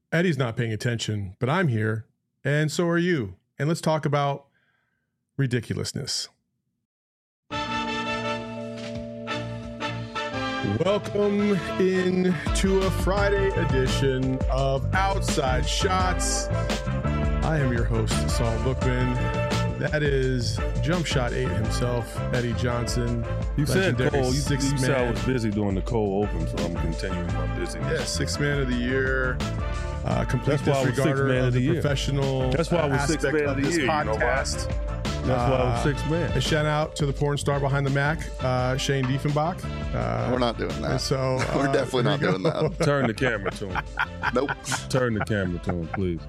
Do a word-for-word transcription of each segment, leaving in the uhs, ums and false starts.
Eddie's not paying attention, but I'm here, and so are you. And let's talk about ridiculousness. Welcome in to a Friday edition of Outside Shots. I am your host, Saul Bookman. That is Jump Shot eight himself, Eddie Johnson. You said Cole. You, six you man. said I was busy doing the Cole Open, so I'm continuing my busyness. Yeah, six man of the year. Uh, complete That's why I was six disregarder man of of the the year. professional. That's why I was uh, six aspect man of of the this year. You know why? podcast. That's why I was Uh, six man. A shout out to the porn star behind the Mac, uh, Shane Diefenbach. Uh, We're not doing that. So uh, We're definitely not here we doing go. that. Turn the camera to him. Nope. Turn the camera to him, please.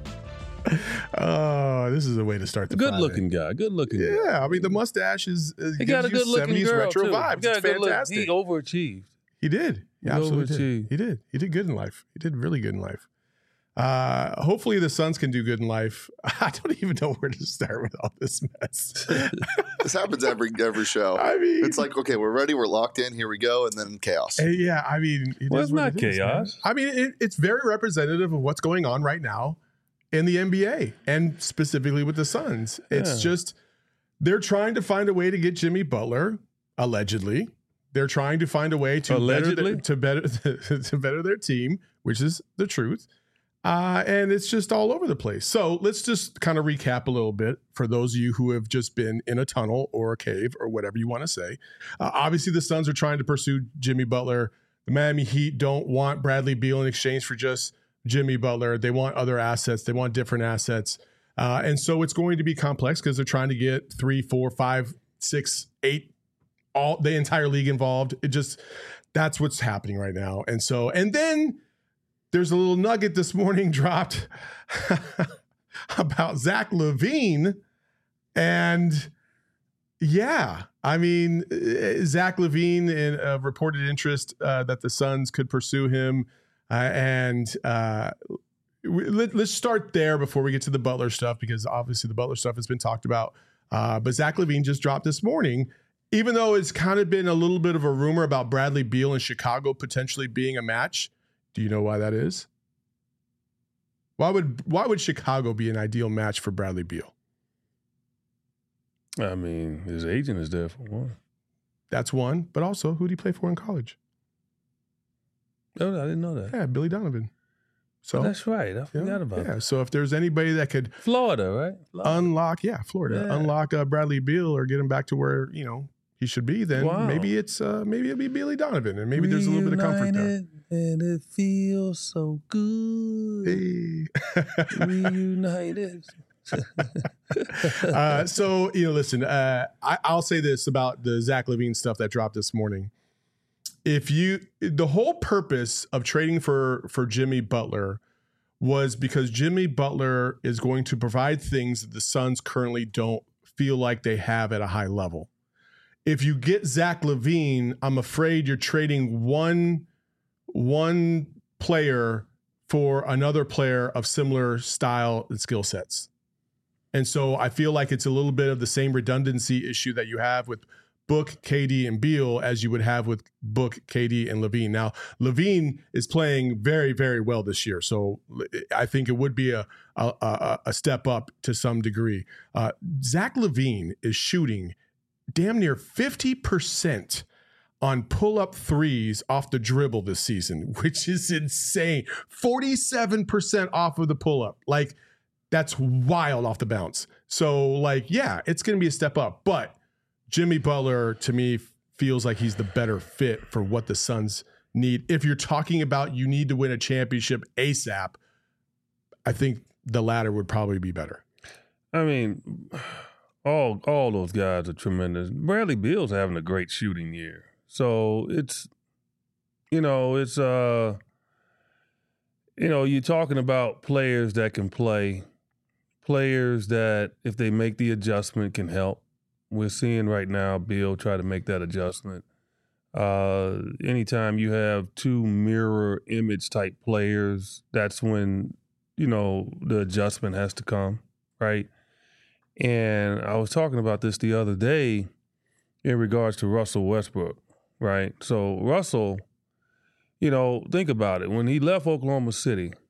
Oh, this is a way to start the Good Friday. looking guy. Good looking guy. Yeah, I mean the mustache is, is He gives got a you good looking seventies girl retro too. vibes. He got It's a good look. fantastic. He overachieved. He did. He He absolutely did. overachieved. He did. He did good in life. He did really good in life. Uh, hopefully the Suns can do good in life. I don't even know where to start with all this mess. This happens every every show. I mean, It's like, okay, we're ready, we're locked in, here we go, and then chaos. Uh, yeah, I mean, it Well, is it's what not it is, man. chaos. I mean, it, it's very representative of what's going on right now in the N B A and specifically with the Suns. It's Yeah. just they're trying to find a way to get Jimmy Butler, allegedly. They're trying to find a way to better, Allegedly? the, to better to better their team, which is the truth. Uh, and it's just all over the place. So let's just kind of recap a little bit for those of you who have just been in a tunnel or a cave or whatever you want to say. Uh, obviously, the Suns are trying to pursue Jimmy Butler. The Miami Heat don't want Bradley Beal in exchange for just Jimmy Butler. They want other assets. They want different assets. Uh, and so it's going to be complex because they're trying to get three, four, five, six, eight, all the entire league involved. It just, that's what's happening right now. And so, and then there's a little nugget this morning dropped about Zach LaVine. And yeah, I mean, Zach LaVine in a reported interest uh, that the Suns could pursue him. Uh, and uh, we, let, let's start there before we get to the Butler stuff, because obviously the Butler stuff has been talked about. Uh, but Zach LaVine just dropped this morning, even though it's kind of been a little bit of a rumor about Bradley Beal in Chicago potentially being a match. Do you know why that is? Why would why would Chicago be an ideal match for Bradley Beal? I mean, his agent is there for one. That's one, but also who did he play for in college? Oh, I didn't know that. Yeah, Billy Donovan. So That's right. I yeah, forgot about yeah. that. So if there's anybody that could Florida, right? Florida. unlock, yeah, Florida, Yeah. unlock uh, Bradley Beal or get him back to where you know he should be, then Wow. maybe it's uh, maybe it'll be Billy Donovan, and maybe there's a little bit of comfort there. Reunited, and it feels so good. Hey. Reunited. uh, so, you know, listen, uh, I, I'll say this about the Zach LaVine stuff that dropped this morning. If you, the whole purpose of trading for, for Jimmy Butler was because Jimmy Butler is going to provide things that the Suns currently don't feel like they have at a high level. If you get Zach LaVine, I'm afraid you're trading one, one player for another player of similar style and skill sets. And so I feel like it's a little bit of the same redundancy issue that you have with Book, K D, and Beal as you would have with Book, K D, and LaVine. Now, LaVine is playing very, very well this year. So I think it would be a a, a, a step up to some degree. Uh, Zach LaVine is shooting damn near fifty percent on pull-up threes off the dribble this season, which is insane. forty-seven percent off of the pull-up. Like, that's wild off the bounce. So, like, yeah, it's going to be a step up. But Jimmy Butler, to me, feels like he's the better fit for what the Suns need. If you're talking about you need to win a championship ASAP, I think the latter would probably be better. I mean, all all those guys are tremendous. Bradley Beal's having a great shooting year. So it's, you know, it's, uh, you know, you're talking about players that can play, players that, if they make the adjustment, can help. We're seeing right now Beal try to make that adjustment. Uh, anytime you have two mirror image type players, that's when, you know, the adjustment has to come, right? And I was talking about this the other day in regards to Russell Westbrook, right? So Russell, you know, think about it. When he left Oklahoma City,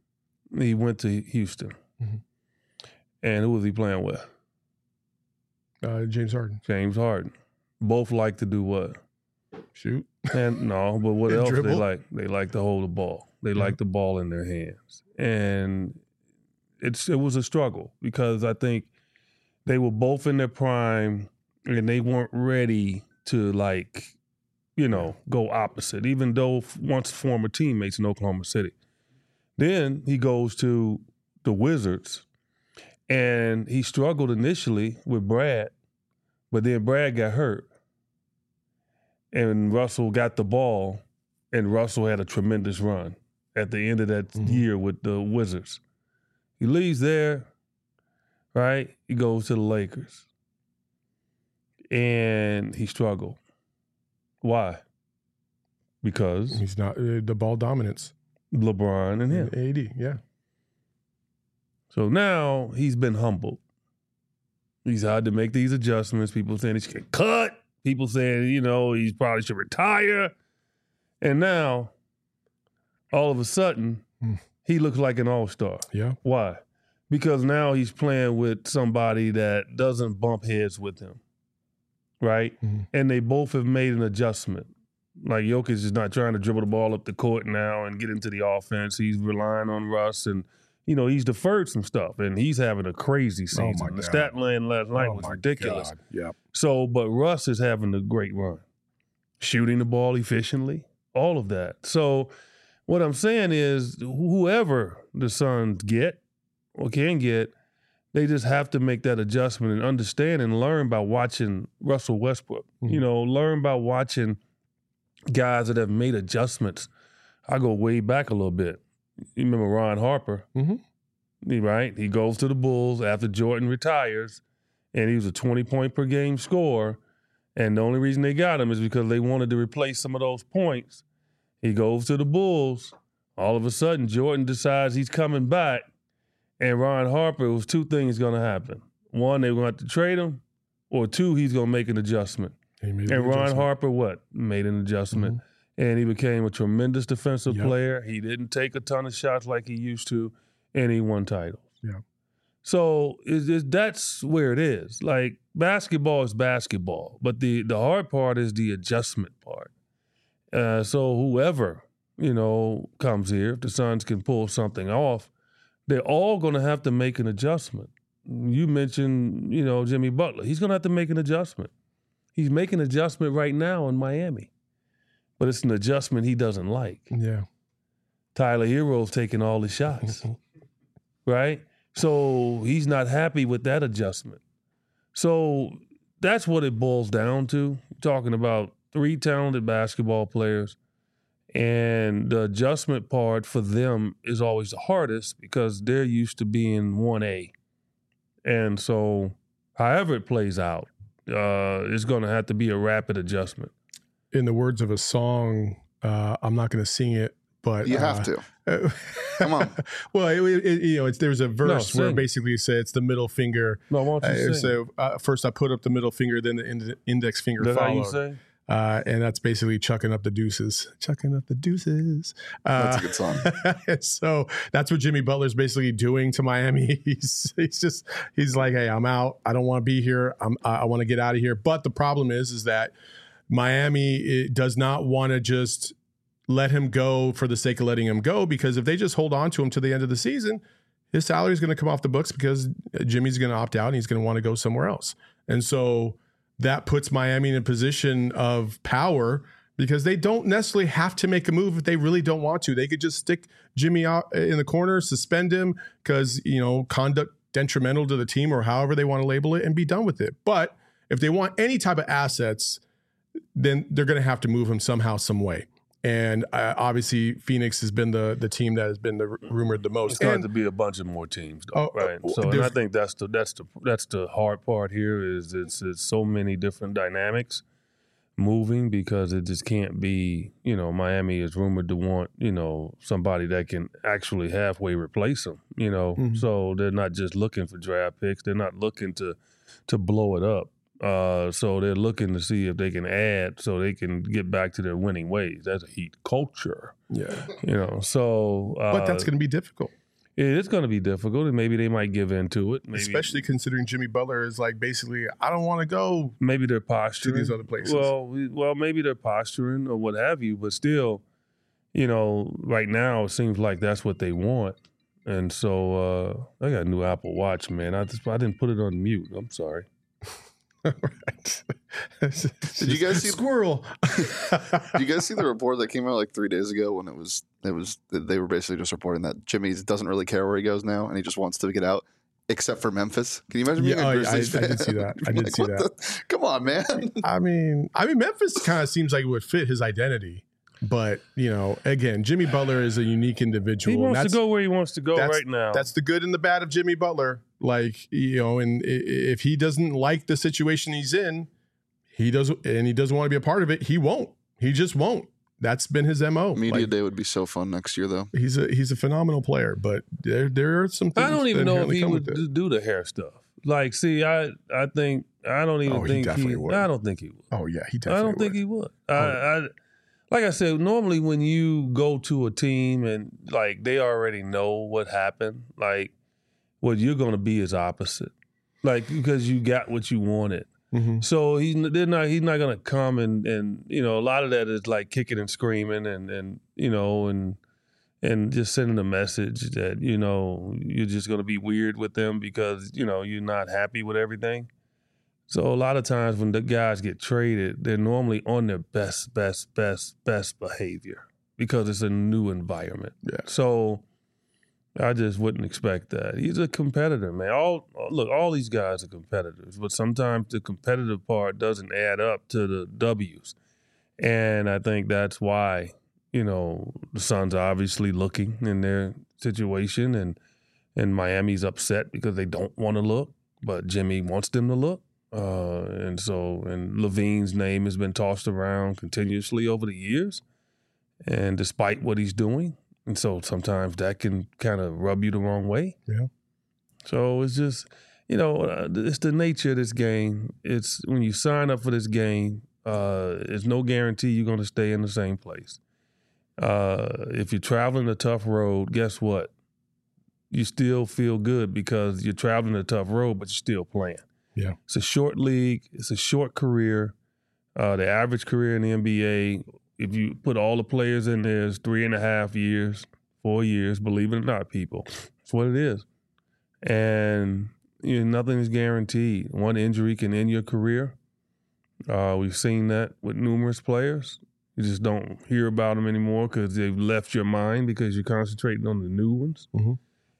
he went to Houston. Mhm. And who was he playing with? Uh, James Harden. James Harden. Both like to do what? Shoot. And no, but what else Dribble. they like? They like to hold the ball. They like the ball in their hands. And it's it was a struggle because I think they were both in their prime and they weren't ready to like, you know, go opposite, even though once former teammates in Oklahoma City. Then he goes to the Wizards and he struggled initially with Brad, but then Brad got hurt. And Russell got the ball, and Russell had a tremendous run at the end of that Mhm. year with the Wizards. He leaves there, right? He goes to the Lakers. And he struggled. Why? Because He's not uh, the ball dominance. LeBron and him. A D, yeah. So now he's been humbled. He's had to make these adjustments. People saying he should get cut. People saying, you know, he probably should retire. And now, all of a sudden, Hmm. he looks like an all-star. Yeah. Why? Because now he's playing with somebody that doesn't bump heads with him, right? Mhm. And they both have made an adjustment. Like Jokic is not trying to dribble the ball up the court now and get into the offense. He's relying on Russ, and you know he's deferred some stuff, and he's having a crazy season. my the God. stat line last night Oh was my ridiculous. God. Yeah. So, but Russ is having a great run, shooting the ball efficiently, all of that. So, what I'm saying is, whoever the Suns get or can get, they just have to make that adjustment and understand and learn by watching Russell Westbrook. Mhm. You know, learn by watching guys that have made adjustments. I go way back a little bit. You remember Ron Harper, Mhm. He- right? He goes to the Bulls after Jordan retires, and he was a twenty-point per game scorer. And the only reason they got him is because they wanted to replace some of those points. He goes to the Bulls. All of a sudden, Jordan decides he's coming back, and Ron Harper, it was two things going to happen. One, they were going to have to trade him, or two, he's going to make an adjustment. He made the And Ron adjustment. Harper, what? Made an adjustment. And he became a tremendous defensive Yep. player. He didn't take a ton of shots like he used to, and he won titles. Yeah. So it's, it's, that's where it is. Like, basketball is basketball, but the, the hard part is the adjustment part. Uh, so whoever, you know, comes here, if the Suns can pull something off, they're all going to have to make an adjustment. You mentioned, you know, Jimmy Butler. He's going to have to make an adjustment. He's making an adjustment right now in Miami, but it's an adjustment he doesn't like. Yeah. Tyler Hero's taking all the shots, right? So he's not happy with that adjustment. So that's what it boils down to. Talking about three talented basketball players, and the adjustment part for them is always the hardest because they're used to being one A. And so however it plays out, uh, it's going to have to be a rapid adjustment. In the words of a song, uh, I'm not going to sing it, but You uh, have to. uh, Come on. well, it, it, you know, it's, there's a verse No, where sing. basically it says it's the middle finger. No, why don't you Uh, sing? so uh, first I put up the middle finger, then the ind- index finger Is that how you followed. say? Uh, and that's basically chucking up the deuces, chucking up the deuces. Uh, That's a good song. so that's what Jimmy Butler's basically doing to Miami. He's he's just he's like, hey, I'm out. I don't want to be here. I'm I, I want to get out of here. But the problem is, is that Miami it does not want to just let him go for the sake of letting him go, because if they just hold on to him to the end of the season, his salary is going to come off the books because Jimmy's going to opt out and he's going to want to go somewhere else. And so that puts Miami in a position of power because they don't necessarily have to make a move if they really don't want to. They could just stick Jimmy out in the corner, suspend him because, you know, conduct detrimental to the team or however they want to label it, and be done with it. But if they want any type of assets, then they're going to have to move him somehow, some way. And uh, obviously, Phoenix has been the the team that has been the r- rumored the most. It's going And- to be a bunch of more teams, though, Oh, right? oh, So, and I there's- think that's the that's the that's the hard part here is it's it's so many different dynamics moving because it just can't be. You know, Miami is rumored to want you know somebody that can actually halfway replace them. You know, Mhm. so they're not just looking for draft picks; they're not looking to to blow it up. Uh, so they're looking to see if they can add so they can get back to their winning ways. That's a Heat culture, yeah, you know. So, uh, but that's going to be difficult. it's going to be difficult, and maybe they might give in to it. Maybe, Especially considering Jimmy Butler is like basically, I don't want to go maybe they're posturing to these other places. Well, we- well, maybe they're posturing or what have you, but still, you know, right now it seems like that's what they want. And so uh, I got a new Apple Watch, man. I just I didn't put it on mute. I'm sorry. Right. Did you guys see squirrel? Did you guys see the report that came out like three days ago when it was it was they were basically just reporting that Jimmy doesn't really care where he goes now and he just wants to get out, except for Memphis. Can you imagine being Yeah, a oh, Grizzlies I- I fan? did see that. I did Like, see what that. the- Come on, man. I mean, I mean, Memphis kind of seems like it would fit his identity, but you know, again, Jimmy Butler is a unique individual. He and wants to that's- go where he wants to go that's- right now. That's the good and the bad of Jimmy Butler. Like, you know, and i- if he doesn't like the situation he's in, he doesn't, and he doesn't want to be a part of it, he won't. He just won't. That's been his M O. Media Like, day would be so fun next year, though. he's a he's a phenomenal player, but there there are some things I don't even that know if inherently he come would with it. d- do the hair stuff. Like, see, I I think I don't even Oh, he think definitely he. would. I don't think he would. Oh yeah, he definitely I don't would. think he would. I, Oh. I like I said, normally when you go to a team and like they already know what happened, like what you're going to be is opposite, like because you got what you wanted. Mhm. So he's they're not he's not going to come and and you know a lot of that is like kicking and screaming and and you know and and just sending a message that you know you're just going to be weird with them because you know you're not happy with everything. So a lot of times when the guys get traded, they're normally on their best, best, best, best behavior because it's a new environment. Yeah. So I just wouldn't expect that. He's a competitor, man. All look, all these guys are competitors, but sometimes the competitive part doesn't add up to the W's. And I think that's why, you know, the Suns are obviously looking in their situation and and Miami's upset because they don't want to look, but Jimmy wants them to look. Uh, and so, and Levine's name has been tossed around continuously over the years, and despite what he's doing, and so sometimes that can kind of rub you the wrong way. Yeah. So it's just, you know, uh, it's the nature of this game. It's when you sign up for this game, uh, it's no guarantee you're going to stay in the same place. Uh, if you're traveling a tough road, guess what? You still feel good because you're traveling a tough road, but you're still playing. Yeah. It's a short league. It's a short career. Uh, the average career in the N B A, if you put all the players in there, is three and a half years, four years, believe it or not, people. That's what it is. And you know, nothing is guaranteed. One injury can end your career. Uh, we've seen that with numerous players. You just don't hear about them anymore because they've left your mind because you're concentrating on the new ones. Mhm.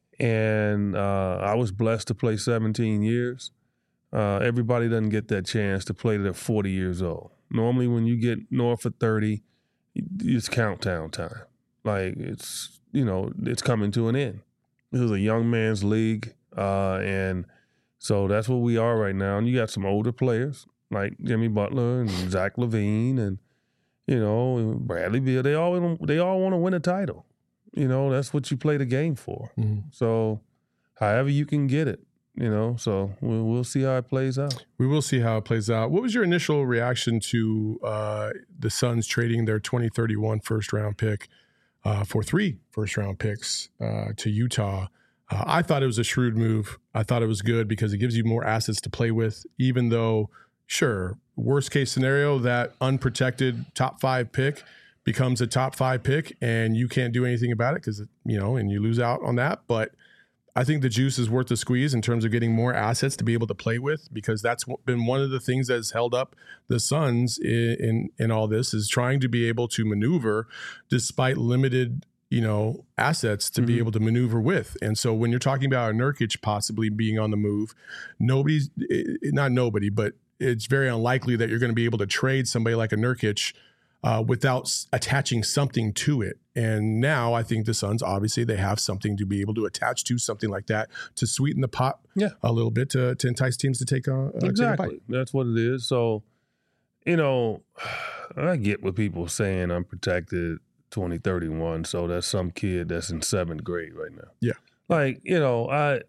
And uh, I was blessed to play seventeen years. Uh, everybody doesn't get that chance to play to they're forty years old. Normally, when you get north of thirty, it's countdown time. Like it's you know it's coming to an end. This is a young man's league, uh, and so that's what we are right now. And you got some older players like Jimmy Butler and Zach LaVine and you know and Bradley Beal. They all they all want to win a title. You know that's what you play the game for. Mhm. So, however you can get it. You know, so we'll, we'll see how it plays out. We will see how it plays out. What was your initial reaction to uh, the Suns trading their twenty thirty-one first round pick uh, for three first round picks uh, to Utah? Uh, I thought it was a shrewd move. I thought it was good because it gives you more assets to play with, even though, sure, worst case scenario, that unprotected top five pick becomes a top five pick and you can't do anything about it because, you know, and you lose out on that. But I think the juice is worth the squeeze in terms of getting more assets to be able to play with, because that's been one of the things that has held up the Suns in, in, in all this, is trying to be able to maneuver despite limited, you know, assets to mm-hmm. be able to maneuver with. And so when you're talking about a Nurkic possibly being on the move, nobody's, not nobody, but it's very unlikely that you're going to be able to trade somebody like a Nurkic Uh, without s- attaching something to it. And now I think the Suns, obviously, they have something to be able to attach to, something like that, to sweeten the pot yeah. a little bit, to, to entice teams to take, uh, exactly. take a bite. That's what it is. So, you know, I get what people saying I'm protected twenty thirty-one, so that's some kid that's in seventh grade right now. Yeah. Like, you know, I...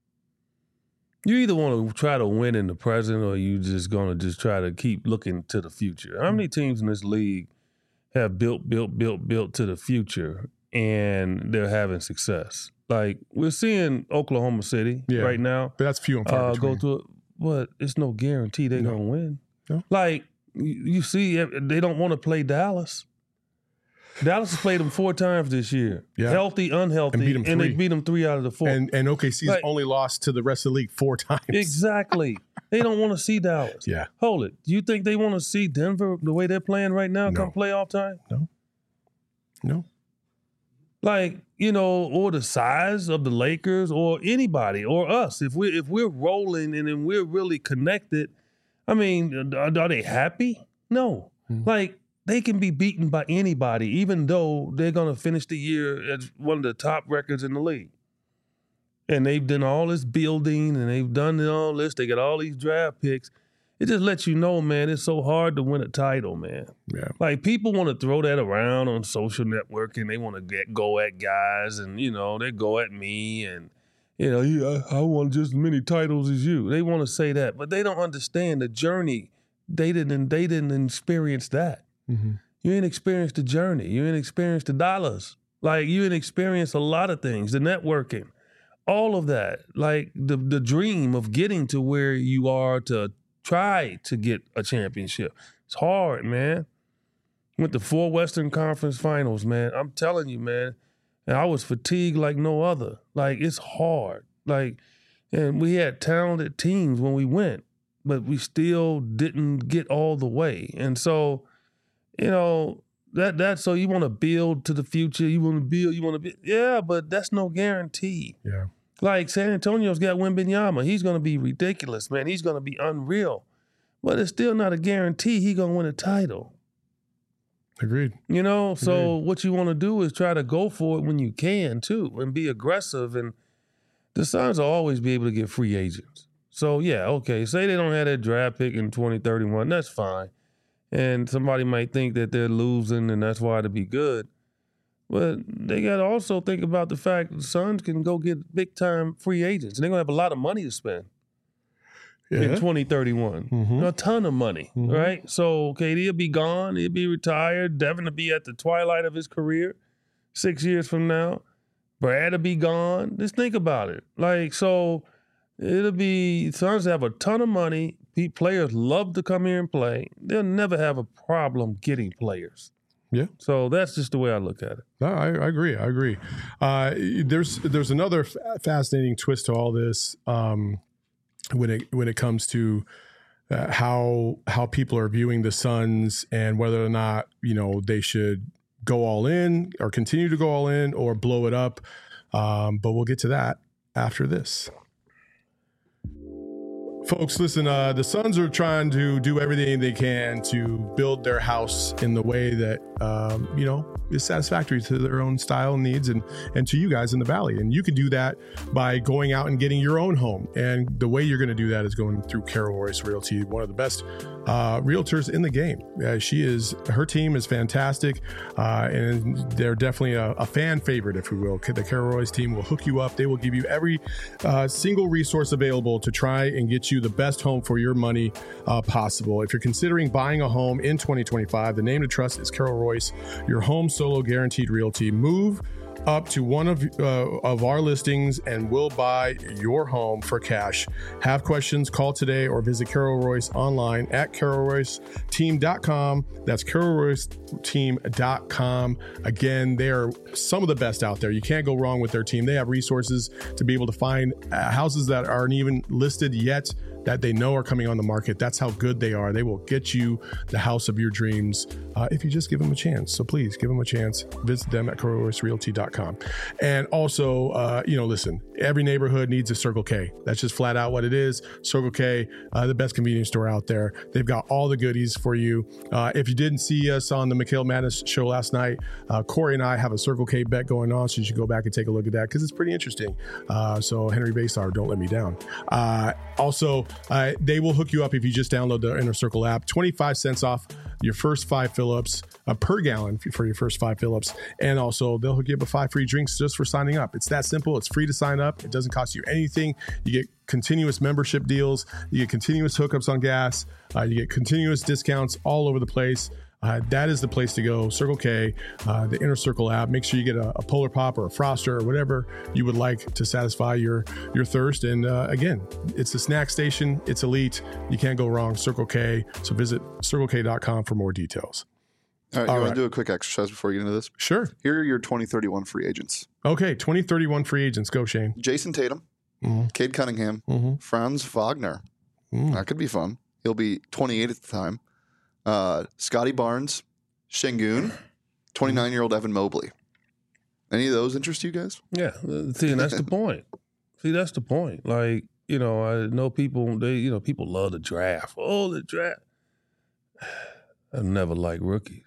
You either want to try to win in the present or you just going to just try to keep looking to the future. How many teams in this league have built, built, built, built to the future and they're having success? Like, we're seeing Oklahoma City Yeah. right now. But that's few and far Uh, between. go through it, but it's no guarantee they're No. gonna win. No. Like you you see, they don't want to play Dallas. Dallas has played them four times this year, Yeah. healthy, unhealthy, And beat 'em and they three. beat them three out of the four. And and O K C's Like- only lost to the rest of the league four times. Exactly, they don't want to see Dallas. Yeah. Hold it. Do you think they want to see Denver the way they're playing right now No. come playoff time? No. Like, you know, or the size of the Lakers or anybody or us. If we if we're rolling and then we're really connected, I mean, are, are they happy? No. Mhm. Like, they can be beaten by anybody, even though they're gonna finish the year as one of the top records in the league. And they've done all this building and they've done all this. They got all these draft picks. It just lets you know, man, it's so hard to win a title, man. Yeah. Like, people want to throw that around on social networking. They want to get go at guys, and you know they go at me, and you know yeah, I, I want just as many titles as you. They want to say that, but they don't understand the journey. They didn't. They didn't experience that. Mm-hmm. You ain't experienced the journey. You ain't experienced the dollars. Like, you ain't experienced a lot of things. The networking, all of that. Like the the dream of getting to where you are to try to get a championship. It's hard, man. Went to four Western Conference Finals, man. I'm telling you, man. And I was fatigued like no other. Like, it's hard. Like, and we had talented teams when we went, but we still didn't get all the way. And so, you know, that that so you want to build to the future. You want to build. You want to be. Yeah, but that's no guarantee. Yeah. Like, San Antonio's got Wembanyama. He's going to be ridiculous, man. He's going to be unreal. But it's still not a guarantee he's going to win a title. Agreed. You know? So Agreed. what you want to do is try to go for it when you can, too, and be aggressive. And the Suns will always be able to get free agents. So, yeah, okay. Say they don't have that draft pick in twenty thirty-one. That's fine. And somebody might think that they're losing and that's why to be good. But they got to also think about the fact the Suns can go get big-time free agents. And they're going to have a lot of money to spend in Yeah. twenty thirty-one. Mhm. A ton of money, Mhm. right? So K D will be gone. He'll be retired. Devin will be at the twilight of his career six years from now. Brad will be gone. Just think about it. Like, so it'll be, Suns have a ton of money. Pe- Players love to come here and play. They'll never have a problem getting players. Yeah. So that's just the way I look at it. No, I, I agree. I agree. Uh, there's there's another f- fascinating twist to all this um, when it when it comes to uh, how how people are viewing the Suns and whether or not you know they should go all in or continue to go all in or blow it up. Um, but we'll get to that after this. Folks, listen, uh, the Suns are trying to do everything they can to build their house in the way that, um, you know, is satisfactory to their own style and needs and, and to you guys in the Valley. And you can do that by going out and getting your own home. And the way you're going to do that is going through Carol Royce Realty, one of the best uh, realtors in the game. Uh, she is, her team is fantastic. Uh, and they're definitely a, a fan favorite, if you will. The Carol Royce team will hook you up. They will give you every uh, single resource available to try and get you the best home for your money uh, possible. If you're considering buying a home in twenty twenty-five, the name to trust is Carol Royce, your home solo guaranteed realty. Move up to one of uh, of our listings and we'll buy your home for cash. Have questions, call today or visit Carol Royce online at carol royce team dot com. That's carol royce team dot com. Again, they are some of the best out there. You can't go wrong with their team. They have resources to be able to find uh, houses that aren't even listed yet that they know are coming on the market. That's how good they are. They will get you the house of your dreams uh, if you just give them a chance. So please give them a chance. Visit them at carol royce realty dot com. And also, uh, you know, listen, every neighborhood needs a Circle K. That's just flat out what it is. Circle K, uh, the best convenience store out there. They've got all the goodies for you. Uh, if you didn't see us on the Mikhail Madness show last night, uh, Corey and I have a Circle K bet going on, so you should go back and take a look at that because it's pretty interesting. Uh, so Henry Basar, don't let me down. Uh, also, uh, they will hook you up if you just download the Inner Circle app. twenty-five cents off your first five fill-ups uh, per gallon for your first five fill-ups. And also, they'll hook you up with five free drinks just for signing up. It's that simple. It's free to sign up. It doesn't cost you anything. You get continuous membership deals. You get continuous hookups on gas. Uh, you get continuous discounts all over the place. uh, that is the place to go. Circle K, uh, the Inner Circle app. Make sure you get a, a Polar Pop or a Froster or whatever you would like to satisfy your your thirst. And uh, again, it's a snack station. It's elite. You can't go wrong. Circle K. So visit circle k dot com for more details. All right, All you right. want to do a quick exercise before we get into this? Sure. Here are your twenty thirty-one free agents. Okay, twenty thirty-one free agents. Go, Shane. Jason Tatum, Mm-hmm. Cade Cunningham, Mm-hmm. Franz Wagner. Mm. That could be fun. He'll be twenty-eight at the time. Uh, Scotty Barnes, Şengün, twenty-nine-year-old Evan Mobley. Any of those interest you guys? Yeah, uh, see, and that's the point. See, that's the point. Like, you know, I know people, they, you know, people love the draft. Oh, the draft. I never like rookies.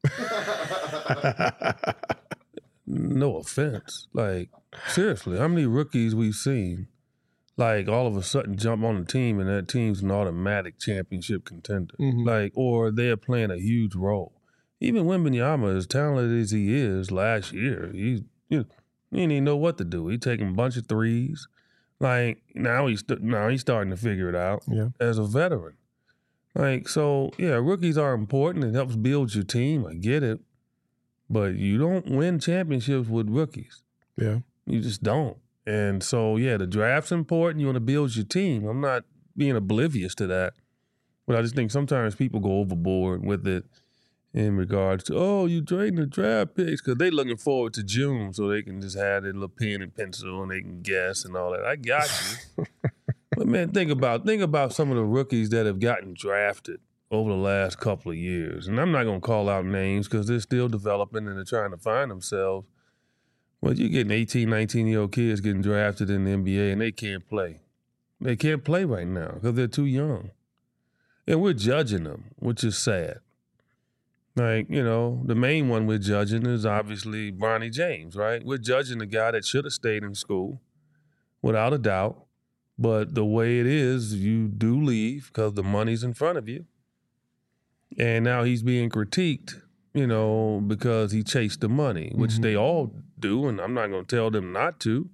No offense. Like, seriously, how many rookies we've seen, like, all of a sudden jump on the team and that team's an automatic championship contender? Mhm. Like, or they're playing a huge role. Even Wembanyama, as talented as he is last year, he, you know, he didn't even know what to do. He taking a bunch of threes. Like, now he's, now he's starting to figure it out Yeah. as a veteran. Like, so, yeah, rookies are important. It helps build your team. I get it. But you don't win championships with rookies. Yeah. You just don't. And so, yeah, the draft's important. You want to build your team. I'm not being oblivious to that. But I just think sometimes people go overboard with it in regards to, oh, you trading the draft picks because they looking forward to June so they can just have their little pen and pencil and they can guess and all that. I got you. But, man, think about think about some of the rookies that have gotten drafted over the last couple of years. And I'm not going to call out names because they're still developing and they're trying to find themselves. But you're getting eighteen, nineteen-year-old kids getting drafted in the N B A and they can't play. They can't play right now because they're too young. And we're judging them, which is sad. Like, you know, the main one we're judging is obviously Bronny James, right? We're judging the guy that should have stayed in school, without a doubt. But the way it is, you do leave because the money's in front of you. And now he's being critiqued, you know, because he chased the money, which Mhm. they all do, and I'm not going to tell them not to.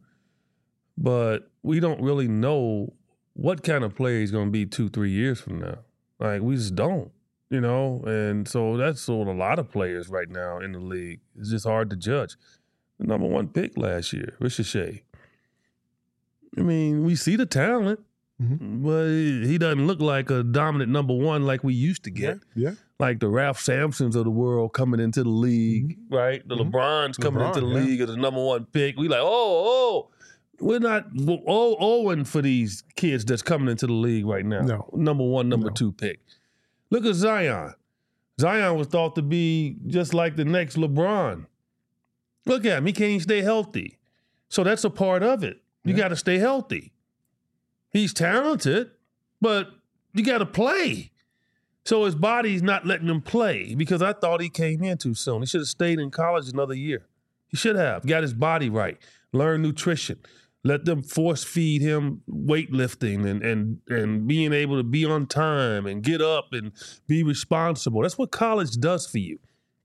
But we don't really know what kind of player he's going to be two, three years from now. Like, we just don't, you know? And so that's what a lot of players right now in the league. It's just hard to judge. The number one pick last year, Ricochet. I mean, we see the talent, Mhm. but he doesn't look like a dominant number one like we used to get. Yeah. Like the Ralph Sampsons of the world coming into the league, right? The Mhm. LeBrons coming LeBron, into the yeah. league as a number one pick. We like, oh, oh, we're not oh, owing for these kids that's coming into the league right now. No. Number one, number No. two pick. Look at Zion. Zion was thought to be just like the next LeBron. Look at him. He can't stay healthy. So that's a part of it. You Yeah. got to stay healthy. He's talented, but you got to play. So his body's not letting him play because I thought he came in too soon. He should have stayed in college another year. He should have. Got his body right. Learn nutrition. Let them force feed him weightlifting and, and, and being able to be on time and get up and be responsible. That's what college does for you.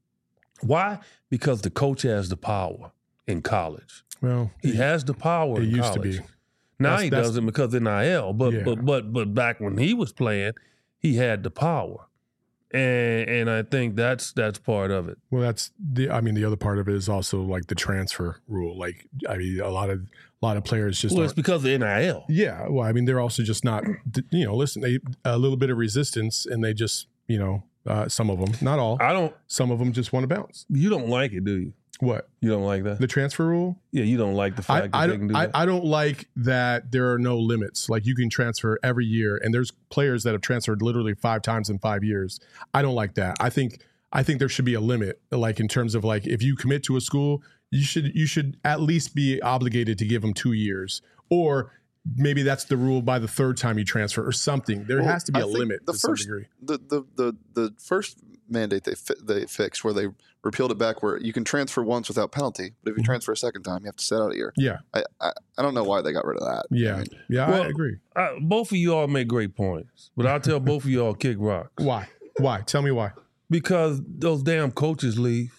Why? Because the coach has the power in college. Well, He has the power it in used to college. be. Now That's- he that's- doesn't because of N I L. But Yeah. but but but back when he was playing, he had the power. And and I think that's that's part of it. Well, that's the. I mean, the other part of it is also like the transfer rule. Like, I mean, a lot of a lot of players just. Well, it's aren't- because of N I L. yeah. Well, I mean, they're also just not. You know, listen, they a little bit of resistance, and they just, you know, uh, some of them, not all, I don't some of them just want to bounce. you don't like it, do you? What, You don't like that? the transfer rule? Yeah, you don't like the I, fact I that they can don't. do I, that. I don't like that there are no limits. Like, you can transfer every year, and there's players that have transferred literally five times in five years. I don't like that. I think. I think there should be a limit. Like, in terms of like, if you commit to a school, you should you should at least be obligated to give them two years, or maybe that's the rule by the third time you transfer, or something. There Well, has to be I a think limit the to first- some degree. The the the the first mandate they fi- they fixed where they repealed it back where you can transfer once without penalty, but if you Mhm. transfer a second time, you have to sit out a year. Yeah, I I, I don't know why they got rid of that. yeah, I mean, yeah. Well- I agree. I, both of you all make great points, but I'll tell both of you all kick rocks Why? Why? Tell me why. because those damn coaches leave.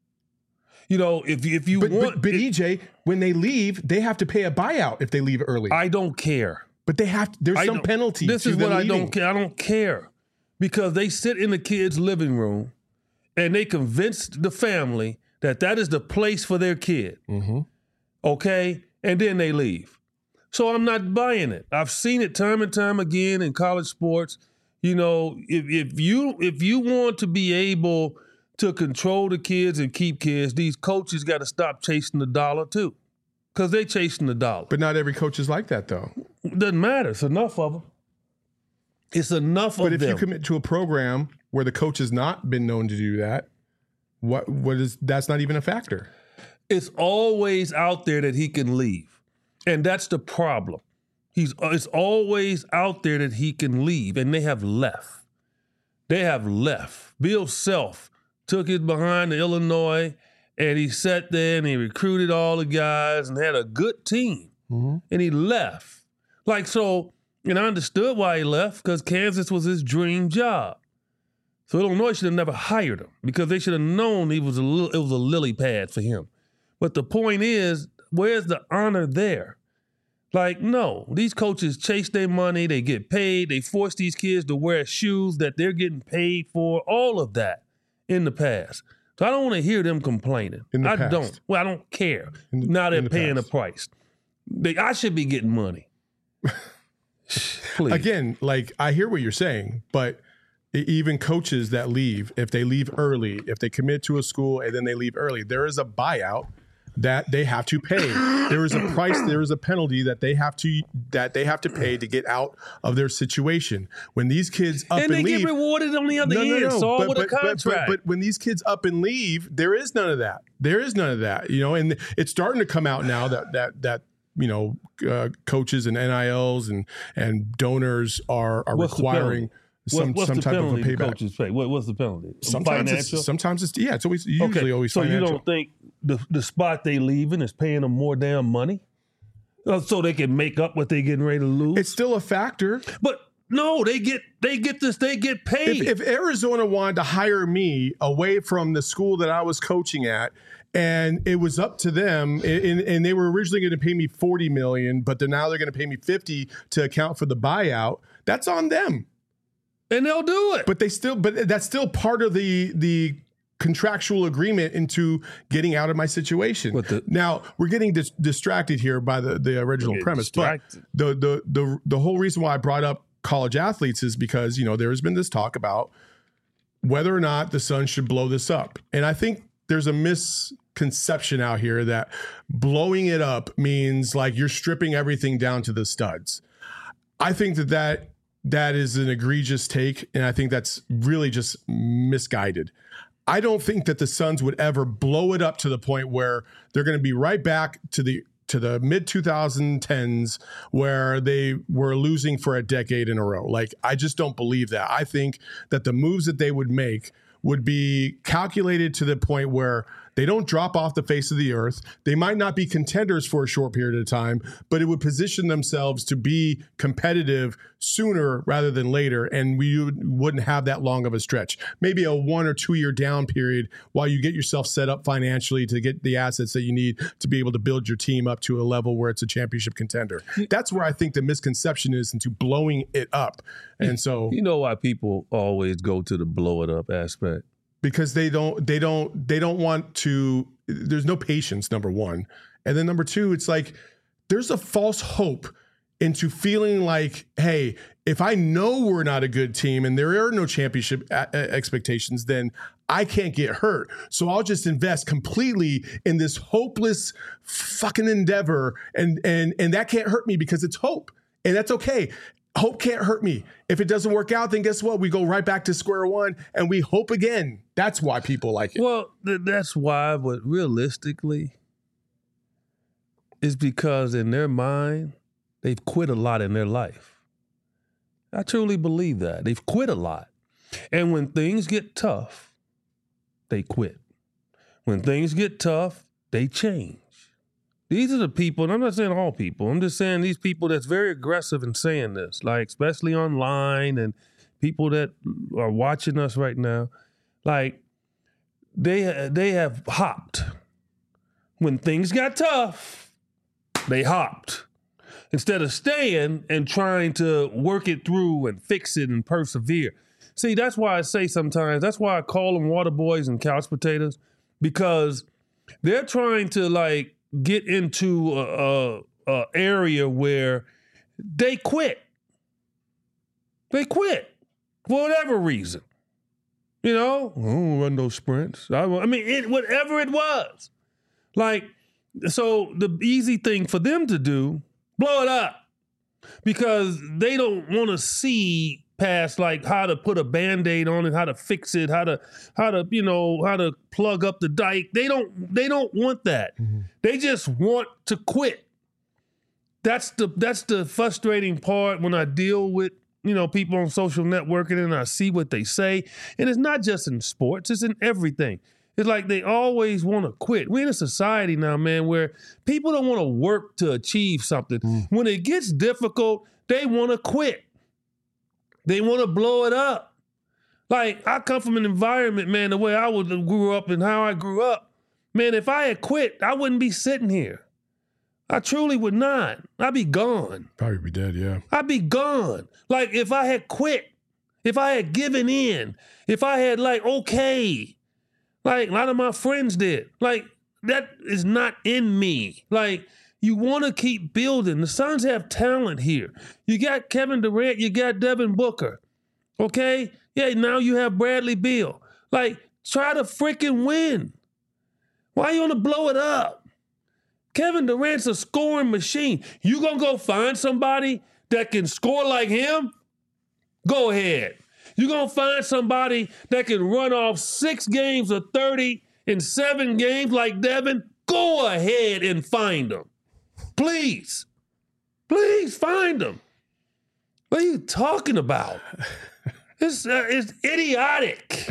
You know, if if you But, want, but, but if- E J, when they leave, they have to pay a buyout if they leave early. I don't care. but they have. There's I some don't- penalty. This to is them what I leaving. don't care. I don't care because they sit in the kids' living room and they convinced the family that that is the place for their kid. Mm-hmm. Okay? And then they leave. So I'm not buying it. I've seen it time and time again in college sports. You know, if, if you if you want to be able to control the kids and keep kids, these coaches got to stop chasing the dollar too, because they're chasing the dollar. But not every coach is like that, though. Doesn't matter. It's enough of them. It's enough But of if them. you commit to a program where the coach has not been known to do that, what what is that's not even a factor. It's always out there that he can leave, and that's the problem. He's it's always out there that he can leave, and they have left. They have left. Bill Self took it behind to Illinois, and he sat there and he recruited all the guys and had a good team, Mm-hmm. and he left. Like so, and I understood why he left, because Kansas was his dream job. So Illinois should have never hired him, because they should have known he was a little, it was a lily pad for him. But the point is, where's the honor there? Like, no, these coaches chase their money, they get paid, they force these kids to wear shoes that they're getting paid for, all of that in the past. So I don't want to hear them complaining. In the I past. don't. Well, I don't care. In the- now they're in the paying past. the price. They, I should be getting money. Please. Again, like I hear what you're saying, but e- even coaches that leave, if they leave early, if they commit to a school and then they leave early, there is a buyout that they have to pay. There is a price, there is a penalty that they have to that they have to pay to get out of their situation. When these kids up and and, they leave, get rewarded on the other no, no, end. no. It's all But, with but, a contract. but, but, but when these kids up and leave, there is none of that. There is none of that. You know, and it's starting to come out now that that that you know uh, coaches and N I Ls and and donors are are What's the requiring some What- what's some the type of a penalty the payback. coaches pay? What, what's the penalty? Sometimes Financial? it's, sometimes it's yeah, it's always usually okay. always so financial. you don't think the the spot they leaving is paying them more damn money, Uh, so they can make up what they getting ready to lose? It's still a factor. but no, they get they get this. They get paid. If, if Arizona wanted to hire me away from the school that I was coaching at, and it was up to them, and, and they were originally going to pay me forty million dollars, but they're now they're going to pay me fifty to account for the buyout, that's on them. and they'll do it. But they still, but that's still part of the the contractual agreement into getting out of my situation. But the- now we're getting dis- distracted here by the the original Get premise. distracted. But the the the the whole reason why I brought up college athletes is because you know there has been this talk about whether or not the Suns should blow this up, and I think there's a misconception out here that blowing it up means like you're stripping everything down to the studs. I think that that that is an egregious take, and I think that's really just misguided. I don't think that the Suns would ever blow it up to the point where they're going to be right back to the to the mid twenty tens where they were losing for a decade in a row. Like, I just don't believe that. I think that the moves that they would make would be calculated to the point where they don't drop off the face of the earth. They might not be contenders for a short period of time, but it would position themselves to be competitive sooner rather than later, and we would, wouldn't have that long of a stretch. Maybe a one or two year down period while you get yourself set up financially to get the assets that you need to be able to build your team up to a level where it's a championship contender. That's where I think the misconception is into blowing it up. And so you know why people always go to the blow it up aspect? because they don't they don't they don't want to, there's no patience, number one, and then number two, it's like there's a false hope into feeling like, hey, if I know we're not a good team and there are no championship a- a- expectations, then I can't get hurt, so I'll just invest completely in this hopeless fucking endeavor, and and and that can't hurt me because it's hope, and that's okay. Hope can't hurt me. If it doesn't work out, then guess what? We go right back to square one and we hope again. That's why people like it. Well, th- that's why, but realistically, it's because in their mind, they've quit a lot in their life. I truly believe that. They've quit a lot. And when things get tough, they quit. When things get tough, they change. These are the people, and I'm not saying all people, I'm just saying these people that's very aggressive in saying this, like especially online and people that are watching us right now, like they they have hopped. When things got tough, they hopped. Instead of staying and trying to work it through and fix it and persevere. See, that's why I say sometimes, that's why I call them water boys and couch potatoes, because they're trying to like get into a, a, a area where they quit. They quit for whatever reason. You know, I don't run those sprints. I, I mean, it, whatever it was. Like, so the easy thing for them to do, blow it up. Because they don't want to see past like how to put a Band-Aid on it, how to fix it, how to, how to, you know, how to plug up the dike. They don't, they don't want that. Mm-hmm. They just want to quit. That's the, that's the frustrating part when I deal with, you know, people on social networking and I see what they say. And it's not just in sports, it's in everything. It's like they always want to quit. We're in a society now, man, where people don't want to work to achieve something. Mm. When it gets difficult, they want to quit. They want to blow it up. Like, I come from an environment, man, the way I was, grew up and how I grew up. Man, if I had quit, I wouldn't be sitting here. I truly would not. I'd be gone. Probably be dead, yeah. I'd be gone. Like, if I had quit, if I had given in, if I had, like, okay, like a lot of my friends did, like, that is not in me. Like, you want to keep building. The Suns have talent here. You got Kevin Durant, you got Devin Booker, okay? Yeah, now you have Bradley Beal. Like, try to freaking win. Why you want to blow it up? Kevin Durant's a scoring machine. You gonna go find somebody that can score like him? Go ahead. You gonna find somebody that can run off six games of thirty in seven games like Devin? Go ahead and find them. Please. Please find them. What are you talking about? It's, uh, it's idiotic.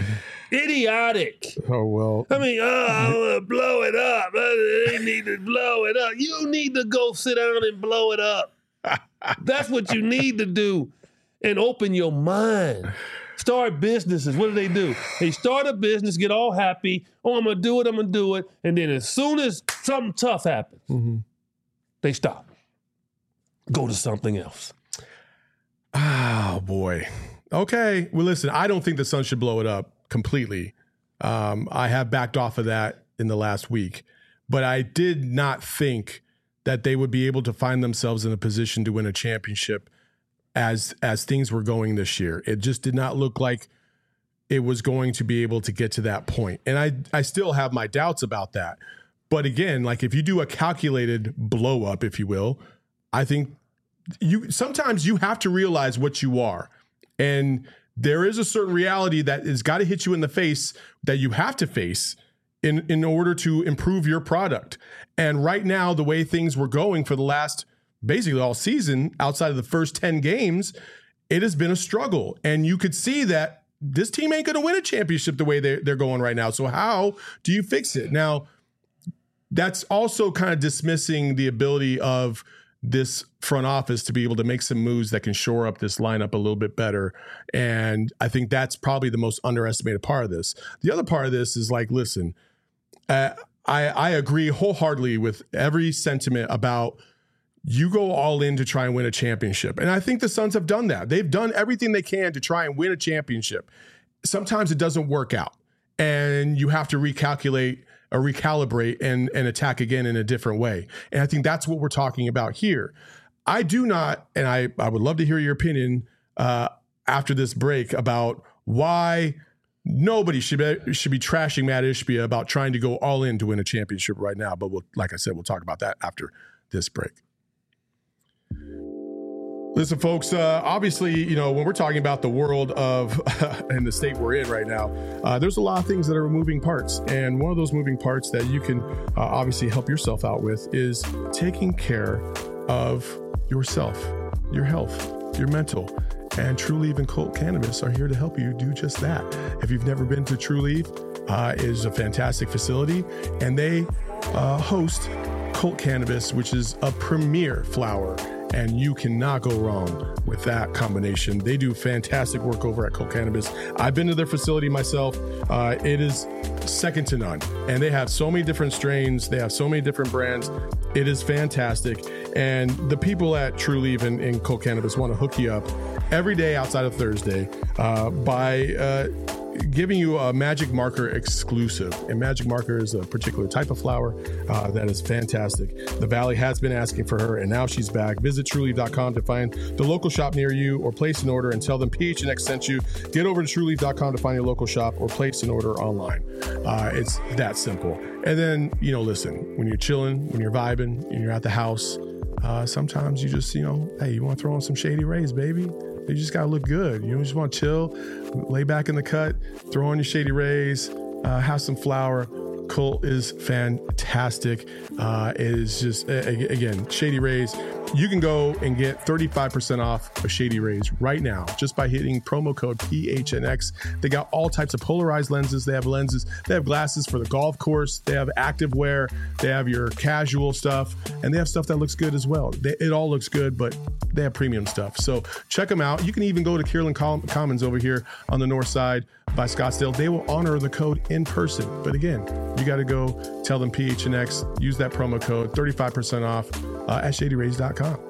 Idiotic. Oh, well. I mean, oh, I want to blow it up. They need to blow it up. You need to go sit down and blow it up. That's what you need to do. And open your mind. Start businesses. What do they do? They start a business, get all happy. Oh, I'm going to do it, I'm going to do it. And then as soon as something tough happens, mm-hmm. they stop. Go to something else. Oh, boy. Okay. Well, listen, I don't think the Suns should blow it up completely. Um, I have backed off of that in the last week, but I did not think that they would be able to find themselves in a position to win a championship as as things were going this year. It just did not look like it was going to be able to get to that point. And I I still have my doubts about that. But again, like if you do a calculated blow up, if you will, I think you sometimes you have to realize what you are. And there is a certain reality that has got to hit you in the face that you have to face in, in order to improve your product. And right now, the way things were going for the last basically all season, outside of the first ten games, it has been a struggle. And you could see that this team ain't going to win a championship the way they're, they're going right now. So how do you fix it? Now, that's also kind of dismissing the ability of this front office to be able to make some moves that can shore up this lineup a little bit better. And I think that's probably the most underestimated part of this. The other part of this is like, listen, uh, I, I agree wholeheartedly with every sentiment about you go all in to try and win a championship. And I think the Suns have done that. They've done everything they can to try and win a championship. Sometimes it doesn't work out and you have to recalculate or recalibrate and, and attack again in a different way. And I think that's what we're talking about here. I do not, and I, I would love to hear your opinion uh, after this break about why nobody should be, should be trashing Matt Ishbia about trying to go all in to win a championship right now. But we'll, like I said, we'll talk about that after this break. Listen, folks, uh, obviously, you know, when we're talking about the world of uh, and the state we're in right now, uh, there's a lot of things that are moving parts. And one of those moving parts that you can uh, obviously help yourself out with is taking care of yourself, your health, your mental. And True Leaf and Colt Cannabis are here to help you do just that. If you've never been to True Leaf, uh, it is a fantastic facility, and they uh, host Colt Cannabis, which is a premier flower, and you cannot go wrong with that combination. They do fantastic work over at Colt Cannabis. I've been to their facility myself. Uh, it is second to none. And they have so many different strains. They have so many different brands. It is fantastic. And the people at Trulieve and, and Colt Cannabis want to hook you up every day outside of Thursday uh, by uh, giving you a Magic Marker exclusive. And Magic Marker is a particular type of flower uh, that is fantastic. The Valley has been asking for her, and now she's back. Visit Trulieve dot com to find the local shop near you, or place an order and tell them P H N X sent you. Get over to Trulieve dot com to find your local shop, or place an order online. Uh, it's that simple. And then, you know, listen, when you're chilling, when you're vibing, and you're at the house, uh, sometimes you just, you know, hey, you want to throw on some Shady Rays, baby. You just got to look good. You just want to chill, lay back in the cut, throw on your Shady Rays, uh, have some flour. Colt is fantastic. Uh, it is just, again, Shady Rays. You can go and get thirty-five percent off of Shady Rays right now just by hitting promo code P H N X. They got all types of polarized lenses. They have lenses. They have glasses for the golf course. They have active wear. They have your casual stuff. And they have stuff that looks good as well. They, it all looks good, but they have premium stuff. So check them out. You can even go to Kierland Commons over here on the north side by Scottsdale. They will honor the code in person. But again, you got to go tell them P H N X, use that promo code, thirty-five percent off uh, at Shady Rays dot com.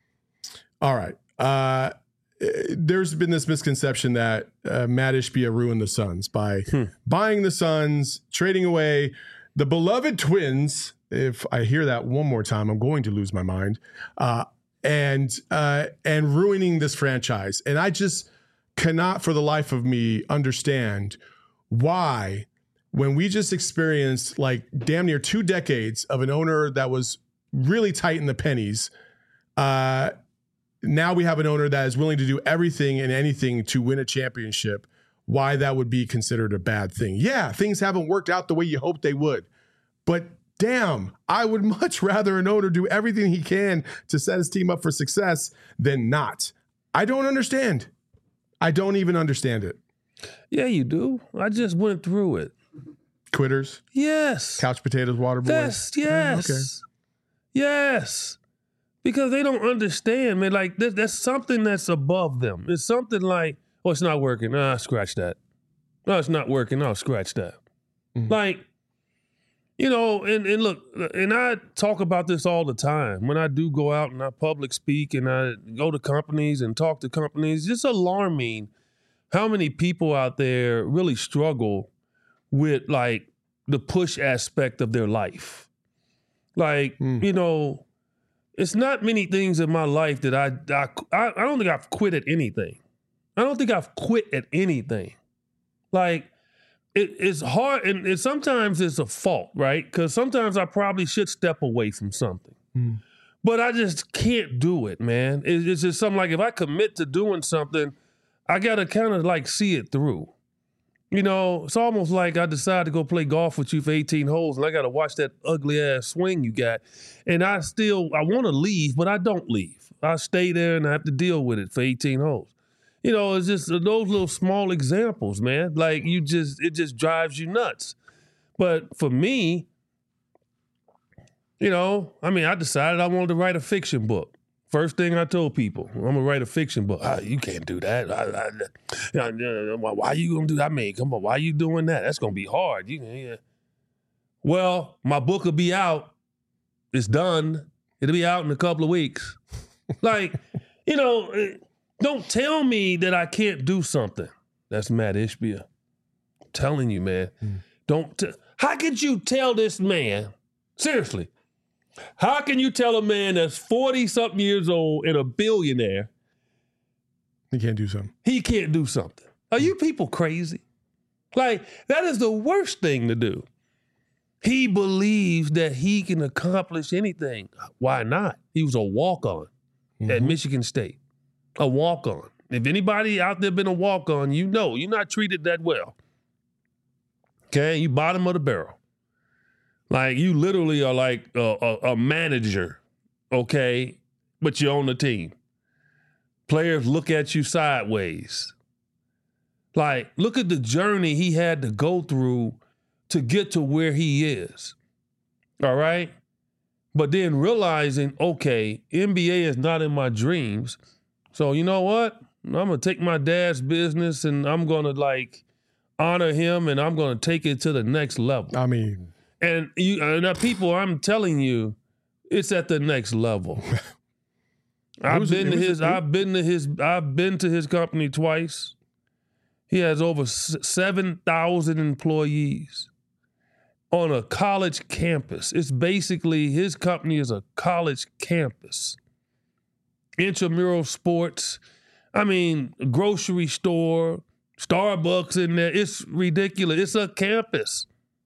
All right. Uh, there's been this misconception that uh, Matt Ishbia ruined the Suns by hmm. buying the Suns, trading away the beloved Twins. If I hear that one more time, I'm going to lose my mind. Uh, and uh, and ruining this franchise. And I just cannot for the life of me understand why, when we just experienced like damn near two decades of an owner that was really tight in the pennies, uh, now we have an owner that is willing to do everything and anything to win a championship, why that would be considered a bad thing. Yeah, things haven't worked out the way you hoped they would, but damn, I would much rather an owner do everything he can to set his team up for success than not. I don't understand. I don't even understand it. Yeah, you do. I just went through it. Quitters? Yes. Couch potatoes, water boys? Yes, yes. Oh, okay. Yes. Because they don't understand, man. Like, that's, that's something that's above them. It's something like, oh, it's not working. Ah, scratch that. No, it's not working. No, scratch that. Mm-hmm. Like, you know, and, and look, and I talk about this all the time. When I do go out and I public speak and I go to companies and talk to companies, it's alarming how many people out there really struggle with, like, the push aspect of their life. Like, mm. you know, it's not many things in my life that I, I, I don't think I've quit at anything. I don't think I've quit at anything. Like, it, it's hard, and it, sometimes it's a fault, right? Because sometimes I probably should step away from something. Mm. But I just can't do it, man. It, it's just something like, if I commit to doing something, I got to kind of like see it through. You know, it's almost like I decided to go play golf with you for eighteen holes, and I got to watch that ugly ass swing you got. And I still, I want to leave, but I don't leave. I stay there and I have to deal with it for eighteen holes. You know, it's just those little small examples, man. Like, you just, it just drives you nuts. But for me, you know, I mean, I decided I wanted to write a fiction book. First thing I told people, I'm gonna write a fiction book. Ah, you can't do that. I, I, I, why are you gonna do that? I mean, come on, why are you doing that? That's gonna be hard. You, yeah. Well, my book will be out. It's done. It'll be out in a couple of weeks. Like, you know, don't tell me that I can't do something. That's Matt Ishbia. I'm telling you, man. Mm. Don't. T- How could you tell this man, seriously, how can you tell a man that's forty-something years old and a billionaire he can't do something? He can't do something. Are you people crazy? Like, that is the worst thing to do. He believes that he can accomplish anything. Why not? He was a walk-on mm-hmm. at Michigan State. A walk-on. If anybody out there been a walk-on, you know you're not treated that well. Okay? You bottom of the barrel. Like, you literally are like a, a, a manager, okay, but you're on the team. Players look at you sideways. Like, look at the journey he had to go through to get to where he is, all right? But then realizing, okay, N B A is not in my dreams. So you know what? I'm going to take my dad's business and I'm going to like honor him and I'm going to take it to the next level. I mean. And you, and the people, I'm telling you, it's at the next level. I've was, been to was, his, it, I've been to his, I've been to his company twice. He has over seven thousand employees on a college campus. It's basically, his company is a college campus. Intramural sports. I mean, grocery store, Starbucks in there. It's ridiculous. It's a campus.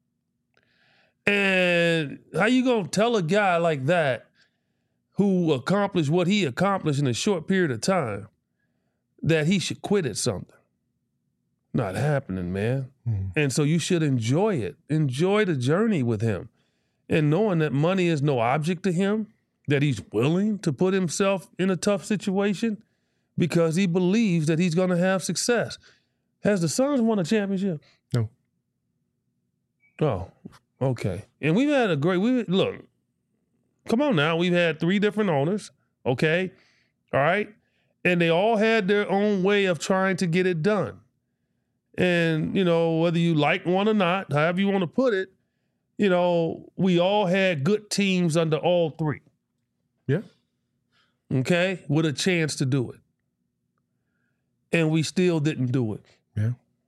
And how you gonna tell a guy like that who accomplished what he accomplished in a short period of time that he should quit at something? Not happening, man. Mm-hmm. And so you should enjoy it. Enjoy the journey with him. And knowing that money is no object to him, that he's willing to put himself in a tough situation because he believes that he's gonna have success. Has the Suns won a championship? No. Oh. Okay. And we've had a great, we look, come on now. We've had three different owners, okay? All right? And they all had their own way of trying to get it done. And, you know, whether you like one or not, however you want to put it, you know, we all had good teams under all three. Yeah. Okay? With a chance to do it. And we still didn't do it. Yeah.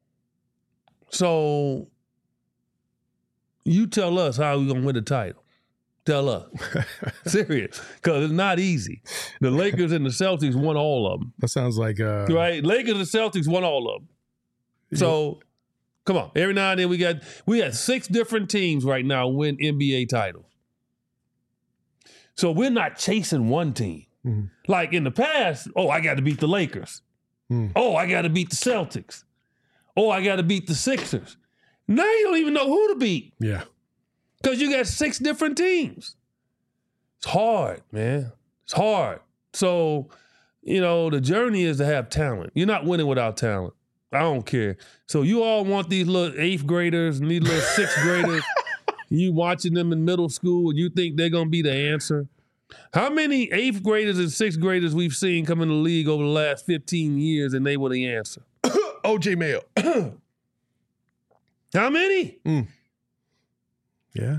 So you tell us how we're going to win the title. Tell us. Serious. Because it's not easy. The Lakers and the Celtics won all of them. That sounds like... Uh... Right? Lakers and Celtics won all of them. So, come on. Every now and then we got... We got six different teams right now win N B A titles. So we're not chasing one team. Mm-hmm. Like in the past, oh, I got to beat the Lakers. Mm. Oh, I got to beat the Celtics. Oh, I got to beat the Sixers. Now you don't even know who to beat. Yeah. Because you got six different teams. It's hard, man. It's hard. So, you know, the journey is to have talent. You're not winning without talent. I don't care. So you all want these little eighth graders and these little sixth graders. You watching them in middle school and you think they're going to be the answer. How many eighth graders and sixth graders we've seen come in the league over the last fifteen years and they were the answer? O J Mayo. How many? Mm. Yeah.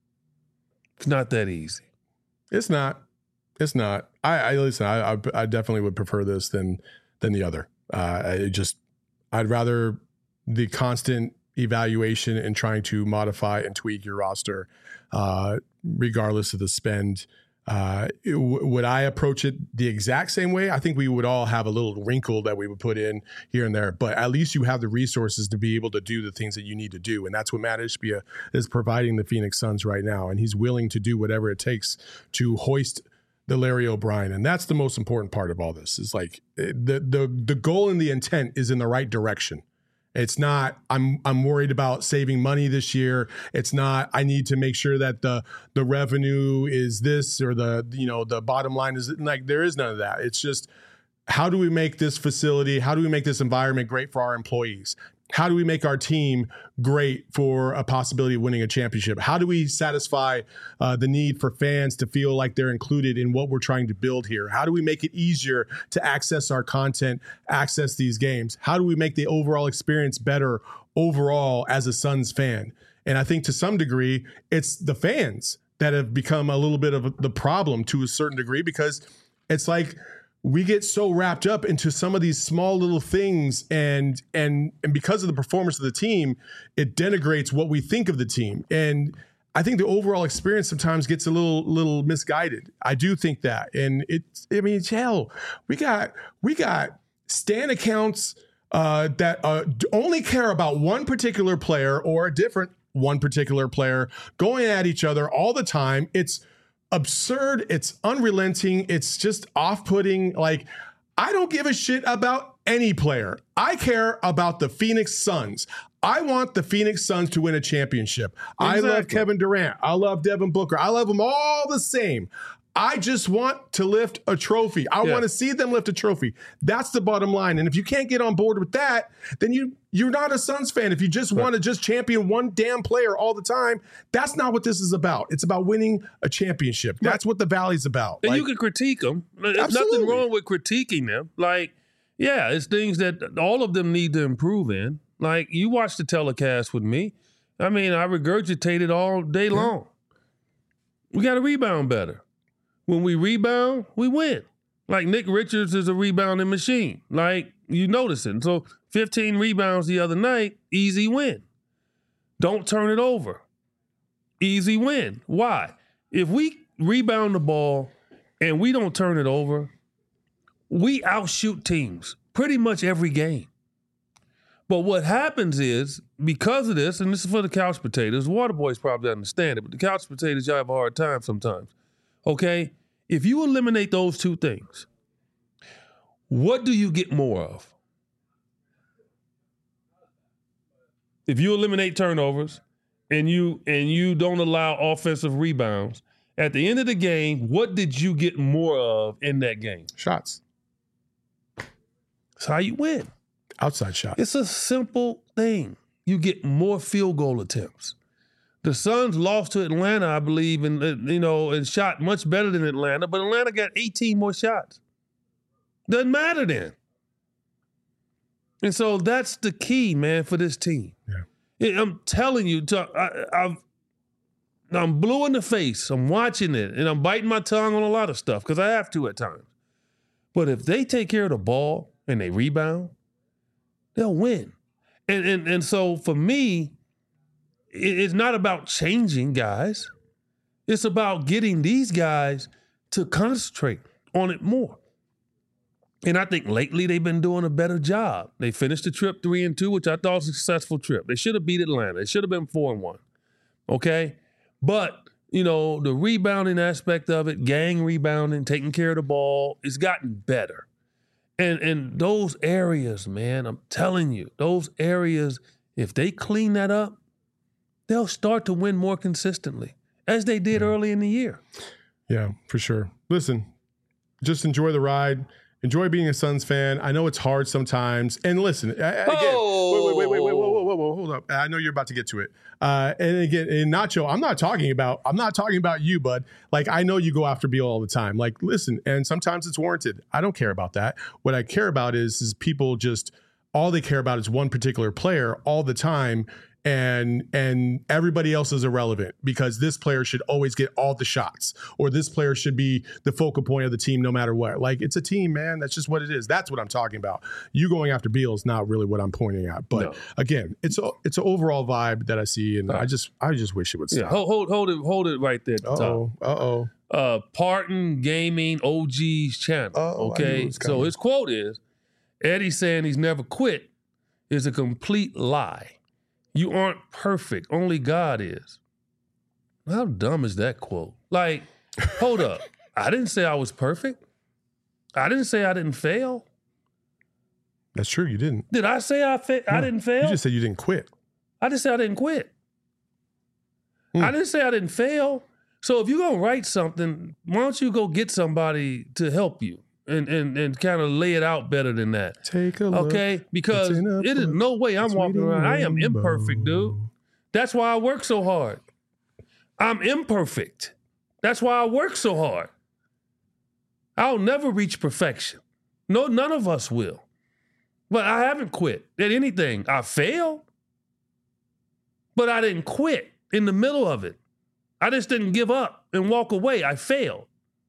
It's not that easy. It's not. It's not. I, I listen, I, I I definitely would prefer this than than the other. Uh, I just, I'd rather the constant evaluation and trying to modify and tweak your roster, uh, regardless of the spend. Uh, it, w- would I approach it the exact same way? I think we would all have a little wrinkle that we would put in here and there, but at least you have the resources to be able to do the things that you need to do. And that's what Matt Ishbia is providing the Phoenix Suns right now. And he's willing to do whatever it takes to hoist the Larry O'Brien. And that's the most important part of all this is like the, the, the goal and the intent is in the right direction. It's not, I'm I'm worried about saving money this year. It's not, I need to make sure that the the revenue is this or the, you know, the bottom line is like, there is none of that. It's just, how do we make this facility, how do we make this environment great for our employees? How do we make our team great for a possibility of winning a championship? How do we satisfy uh, the need for fans to feel like they're included in what we're trying to build here? How do we make it easier to access our content, access these games? How do we make the overall experience better overall as a Suns fan? And I think to some degree, it's the fans that have become a little bit of the problem to a certain degree, because it's like, we get so wrapped up into some of these small little things, and and and because of the performance of the team, it denigrates what we think of the team. And I think the overall experience sometimes gets a little little misguided. I do think that. And it's, I mean, hell, we got we got Stan accounts uh, that uh, only care about one particular player or a different one particular player going at each other all the time. It's absurd. It's unrelenting. It's just off-putting. Like, I don't give a shit about any player. I care about the Phoenix Suns. I want the Phoenix Suns to win a championship. Exactly. I love Kevin Durant. I love Devin Booker. I love them all the same. I just want to lift a trophy. I Yeah. want to see them lift a trophy. That's the bottom line. And if you can't get on board with that, then you you're not a Suns fan. If you just want to just champion one damn player all the time, that's not what this is about. It's about winning a championship. That's what the Valley's about. And Like, you can critique them. There's Absolutely. nothing wrong with critiquing them. Like, yeah, it's things that all of them need to improve in. Like, you watched the telecast with me. I mean, I regurgitated all day long. We got to rebound better. When we rebound, we win. Like, Nick Richards is a rebounding machine. Like, you notice it. So, fifteen rebounds the other night, easy win. Don't turn it over. Easy win. Why? If we rebound the ball and we don't turn it over, we outshoot teams pretty much every game. But what happens is, because of this, and this is for the couch potatoes, Water Boys probably understand it, but the couch potatoes, y'all have a hard time sometimes. Okay? If you eliminate those two things, what do you get more of? If you eliminate turnovers and you and you don't allow offensive rebounds, at the end of the game, what did you get more of in that game? shots, That's how you win. outside shots. It's a simple thing. You get more field goal attempts. The Suns lost to Atlanta, I believe, and uh, you know, and shot much better than Atlanta, but Atlanta got eighteen more shots. Doesn't matter then. And so that's the key, man, for this team. Yeah. It- I'm telling you, to- I, I've, I'm blue in the face. I'm watching it, and I'm biting my tongue on a lot of stuff because I have to at times. But if they take care of the ball and they rebound, they'll win. And and and so for me, it- it's not about changing guys. It's about getting these guys to concentrate on it more. And I think lately they've been doing a better job. They finished the trip three and two, which I thought was a successful trip. They should have beat Atlanta. They should have been four and one. Okay? But, you know, the rebounding aspect of it, gang rebounding, taking care of the ball, it's gotten better. And and those areas, man, I'm telling you, those areas, if they clean that up, they'll start to win more consistently, as they did early in the year. Yeah, for sure. Listen, just enjoy the ride. Enjoy being a Suns fan. I know it's hard sometimes. And listen, I- I- again, Oh. wait, wait, wait, wait, wait, whoa, whoa, whoa, whoa, hold up. I know you're about to get to it. Uh, and again, and Nacho, I'm not talking about, I'm not talking about you, bud. Like, I know you go after Beal all the time. Like, listen, and sometimes it's warranted. I don't care about that. What I care about is, is people just, all they care about is one particular player all the time. And and everybody else is irrelevant because this player should always get all the shots, or this player should be the focal point of the team no matter what. Like, it's a team, man. That's just what it is. That's what I'm talking about. You going after Beal is not really what I'm pointing at. But No. again, it's a, it's an overall vibe that I see, and I just I just wish it would Yeah, stop. hold, hold, hold it, hold it right there at the Uh top. oh. Uh oh. uh, Parton Gaming O G's channel. Oh, I knew it okay, was so coming. his quote is, "Eddie saying he's never quit is a complete lie. You aren't perfect. Only God is." How dumb is that quote? Like, hold up. I didn't say I was perfect. I didn't say I didn't fail. That's true. You didn't. Did I say I fa- I No, didn't fail? You just said you didn't quit. I just said I didn't quit. Hmm. I didn't say I didn't fail. So if you're gonna write something, why don't you go get somebody to help you and and, and kind of lay it out better than that? Take a look. Okay? Because It's in a it is book. no way I'm It's walking reading around. I am rainbow. imperfect, dude. That's why I work so hard. I'm imperfect. That's why I work so hard. I'll never reach perfection. No, none of us will. But I haven't quit at anything. I failed, but I didn't quit in the middle of it. I just didn't give up and walk away. I failed.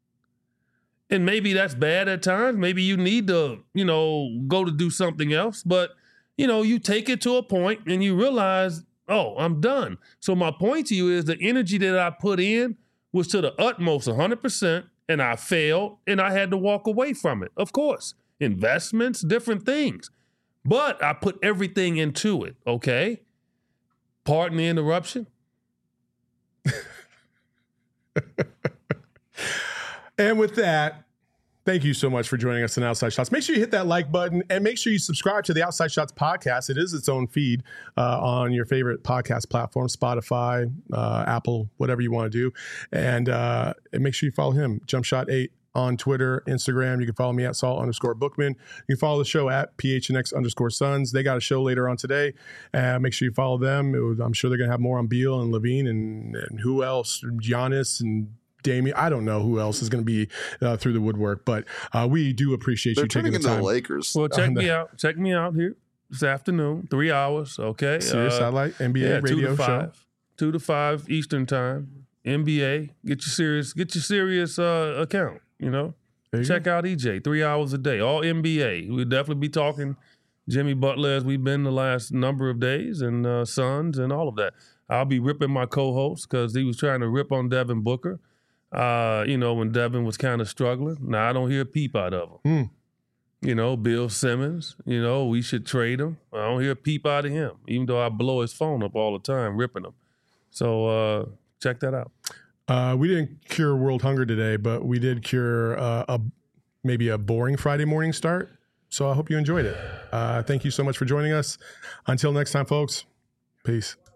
And maybe that's bad at times. Maybe you need to, you know, go to do something else. But, you know, you take it to a point and you realize, oh, I'm done. So my point to you is the energy that I put in was to the utmost one hundred percent, and I failed, and I had to walk away from it. Of course, investments, different things. But I put everything into it, okay? Pardon the interruption. And with that, Thank you so much for joining us on Outside Shots. Make sure you hit that like button and make sure you subscribe to the Outside Shots podcast. It is its own feed uh, on your favorite podcast platform, Spotify, uh, Apple, whatever you want to do. And, uh, and make sure you follow him, Jump Shot eight, on Twitter, Instagram. You can follow me at Saul underscore Bookman. You can follow the show at P H N X underscore Sons. They got a show later on today. Uh, make sure you follow them. It was, I'm sure they're going to have more on Beal and Levine and, and who else, Giannis and Damian. I don't know who else is going to be uh, through the woodwork, but uh, we do appreciate They're you taking the turning into time. the Lakers. Well, check me out. Check me out here this afternoon, three hours. Okay, Sirius uh, Satellite N B A yeah, radio two to show. five, two to five Eastern time. N B A. Get your serious. Get your serious uh, account. You know. There you Check go. out E J, three hours a day, all N B A. We'll definitely be talking Jimmy Butler as we've been the last number of days, and uh, Suns and all of that. I'll be ripping my co-host because he was trying to rip on Devin Booker, uh, you know, when Devin was kind of struggling. Now, I don't hear a peep out of him. Mm. You know, Bill Simmons, you know, we should trade him. I don't hear a peep out of him, even though I blow his phone up all the time, ripping him. So uh, check that out. Uh, we didn't cure world hunger today, but we did cure uh, a maybe a boring Friday morning start. So I hope you enjoyed it. Uh, thank you so much for joining us. Until next time, folks. Peace.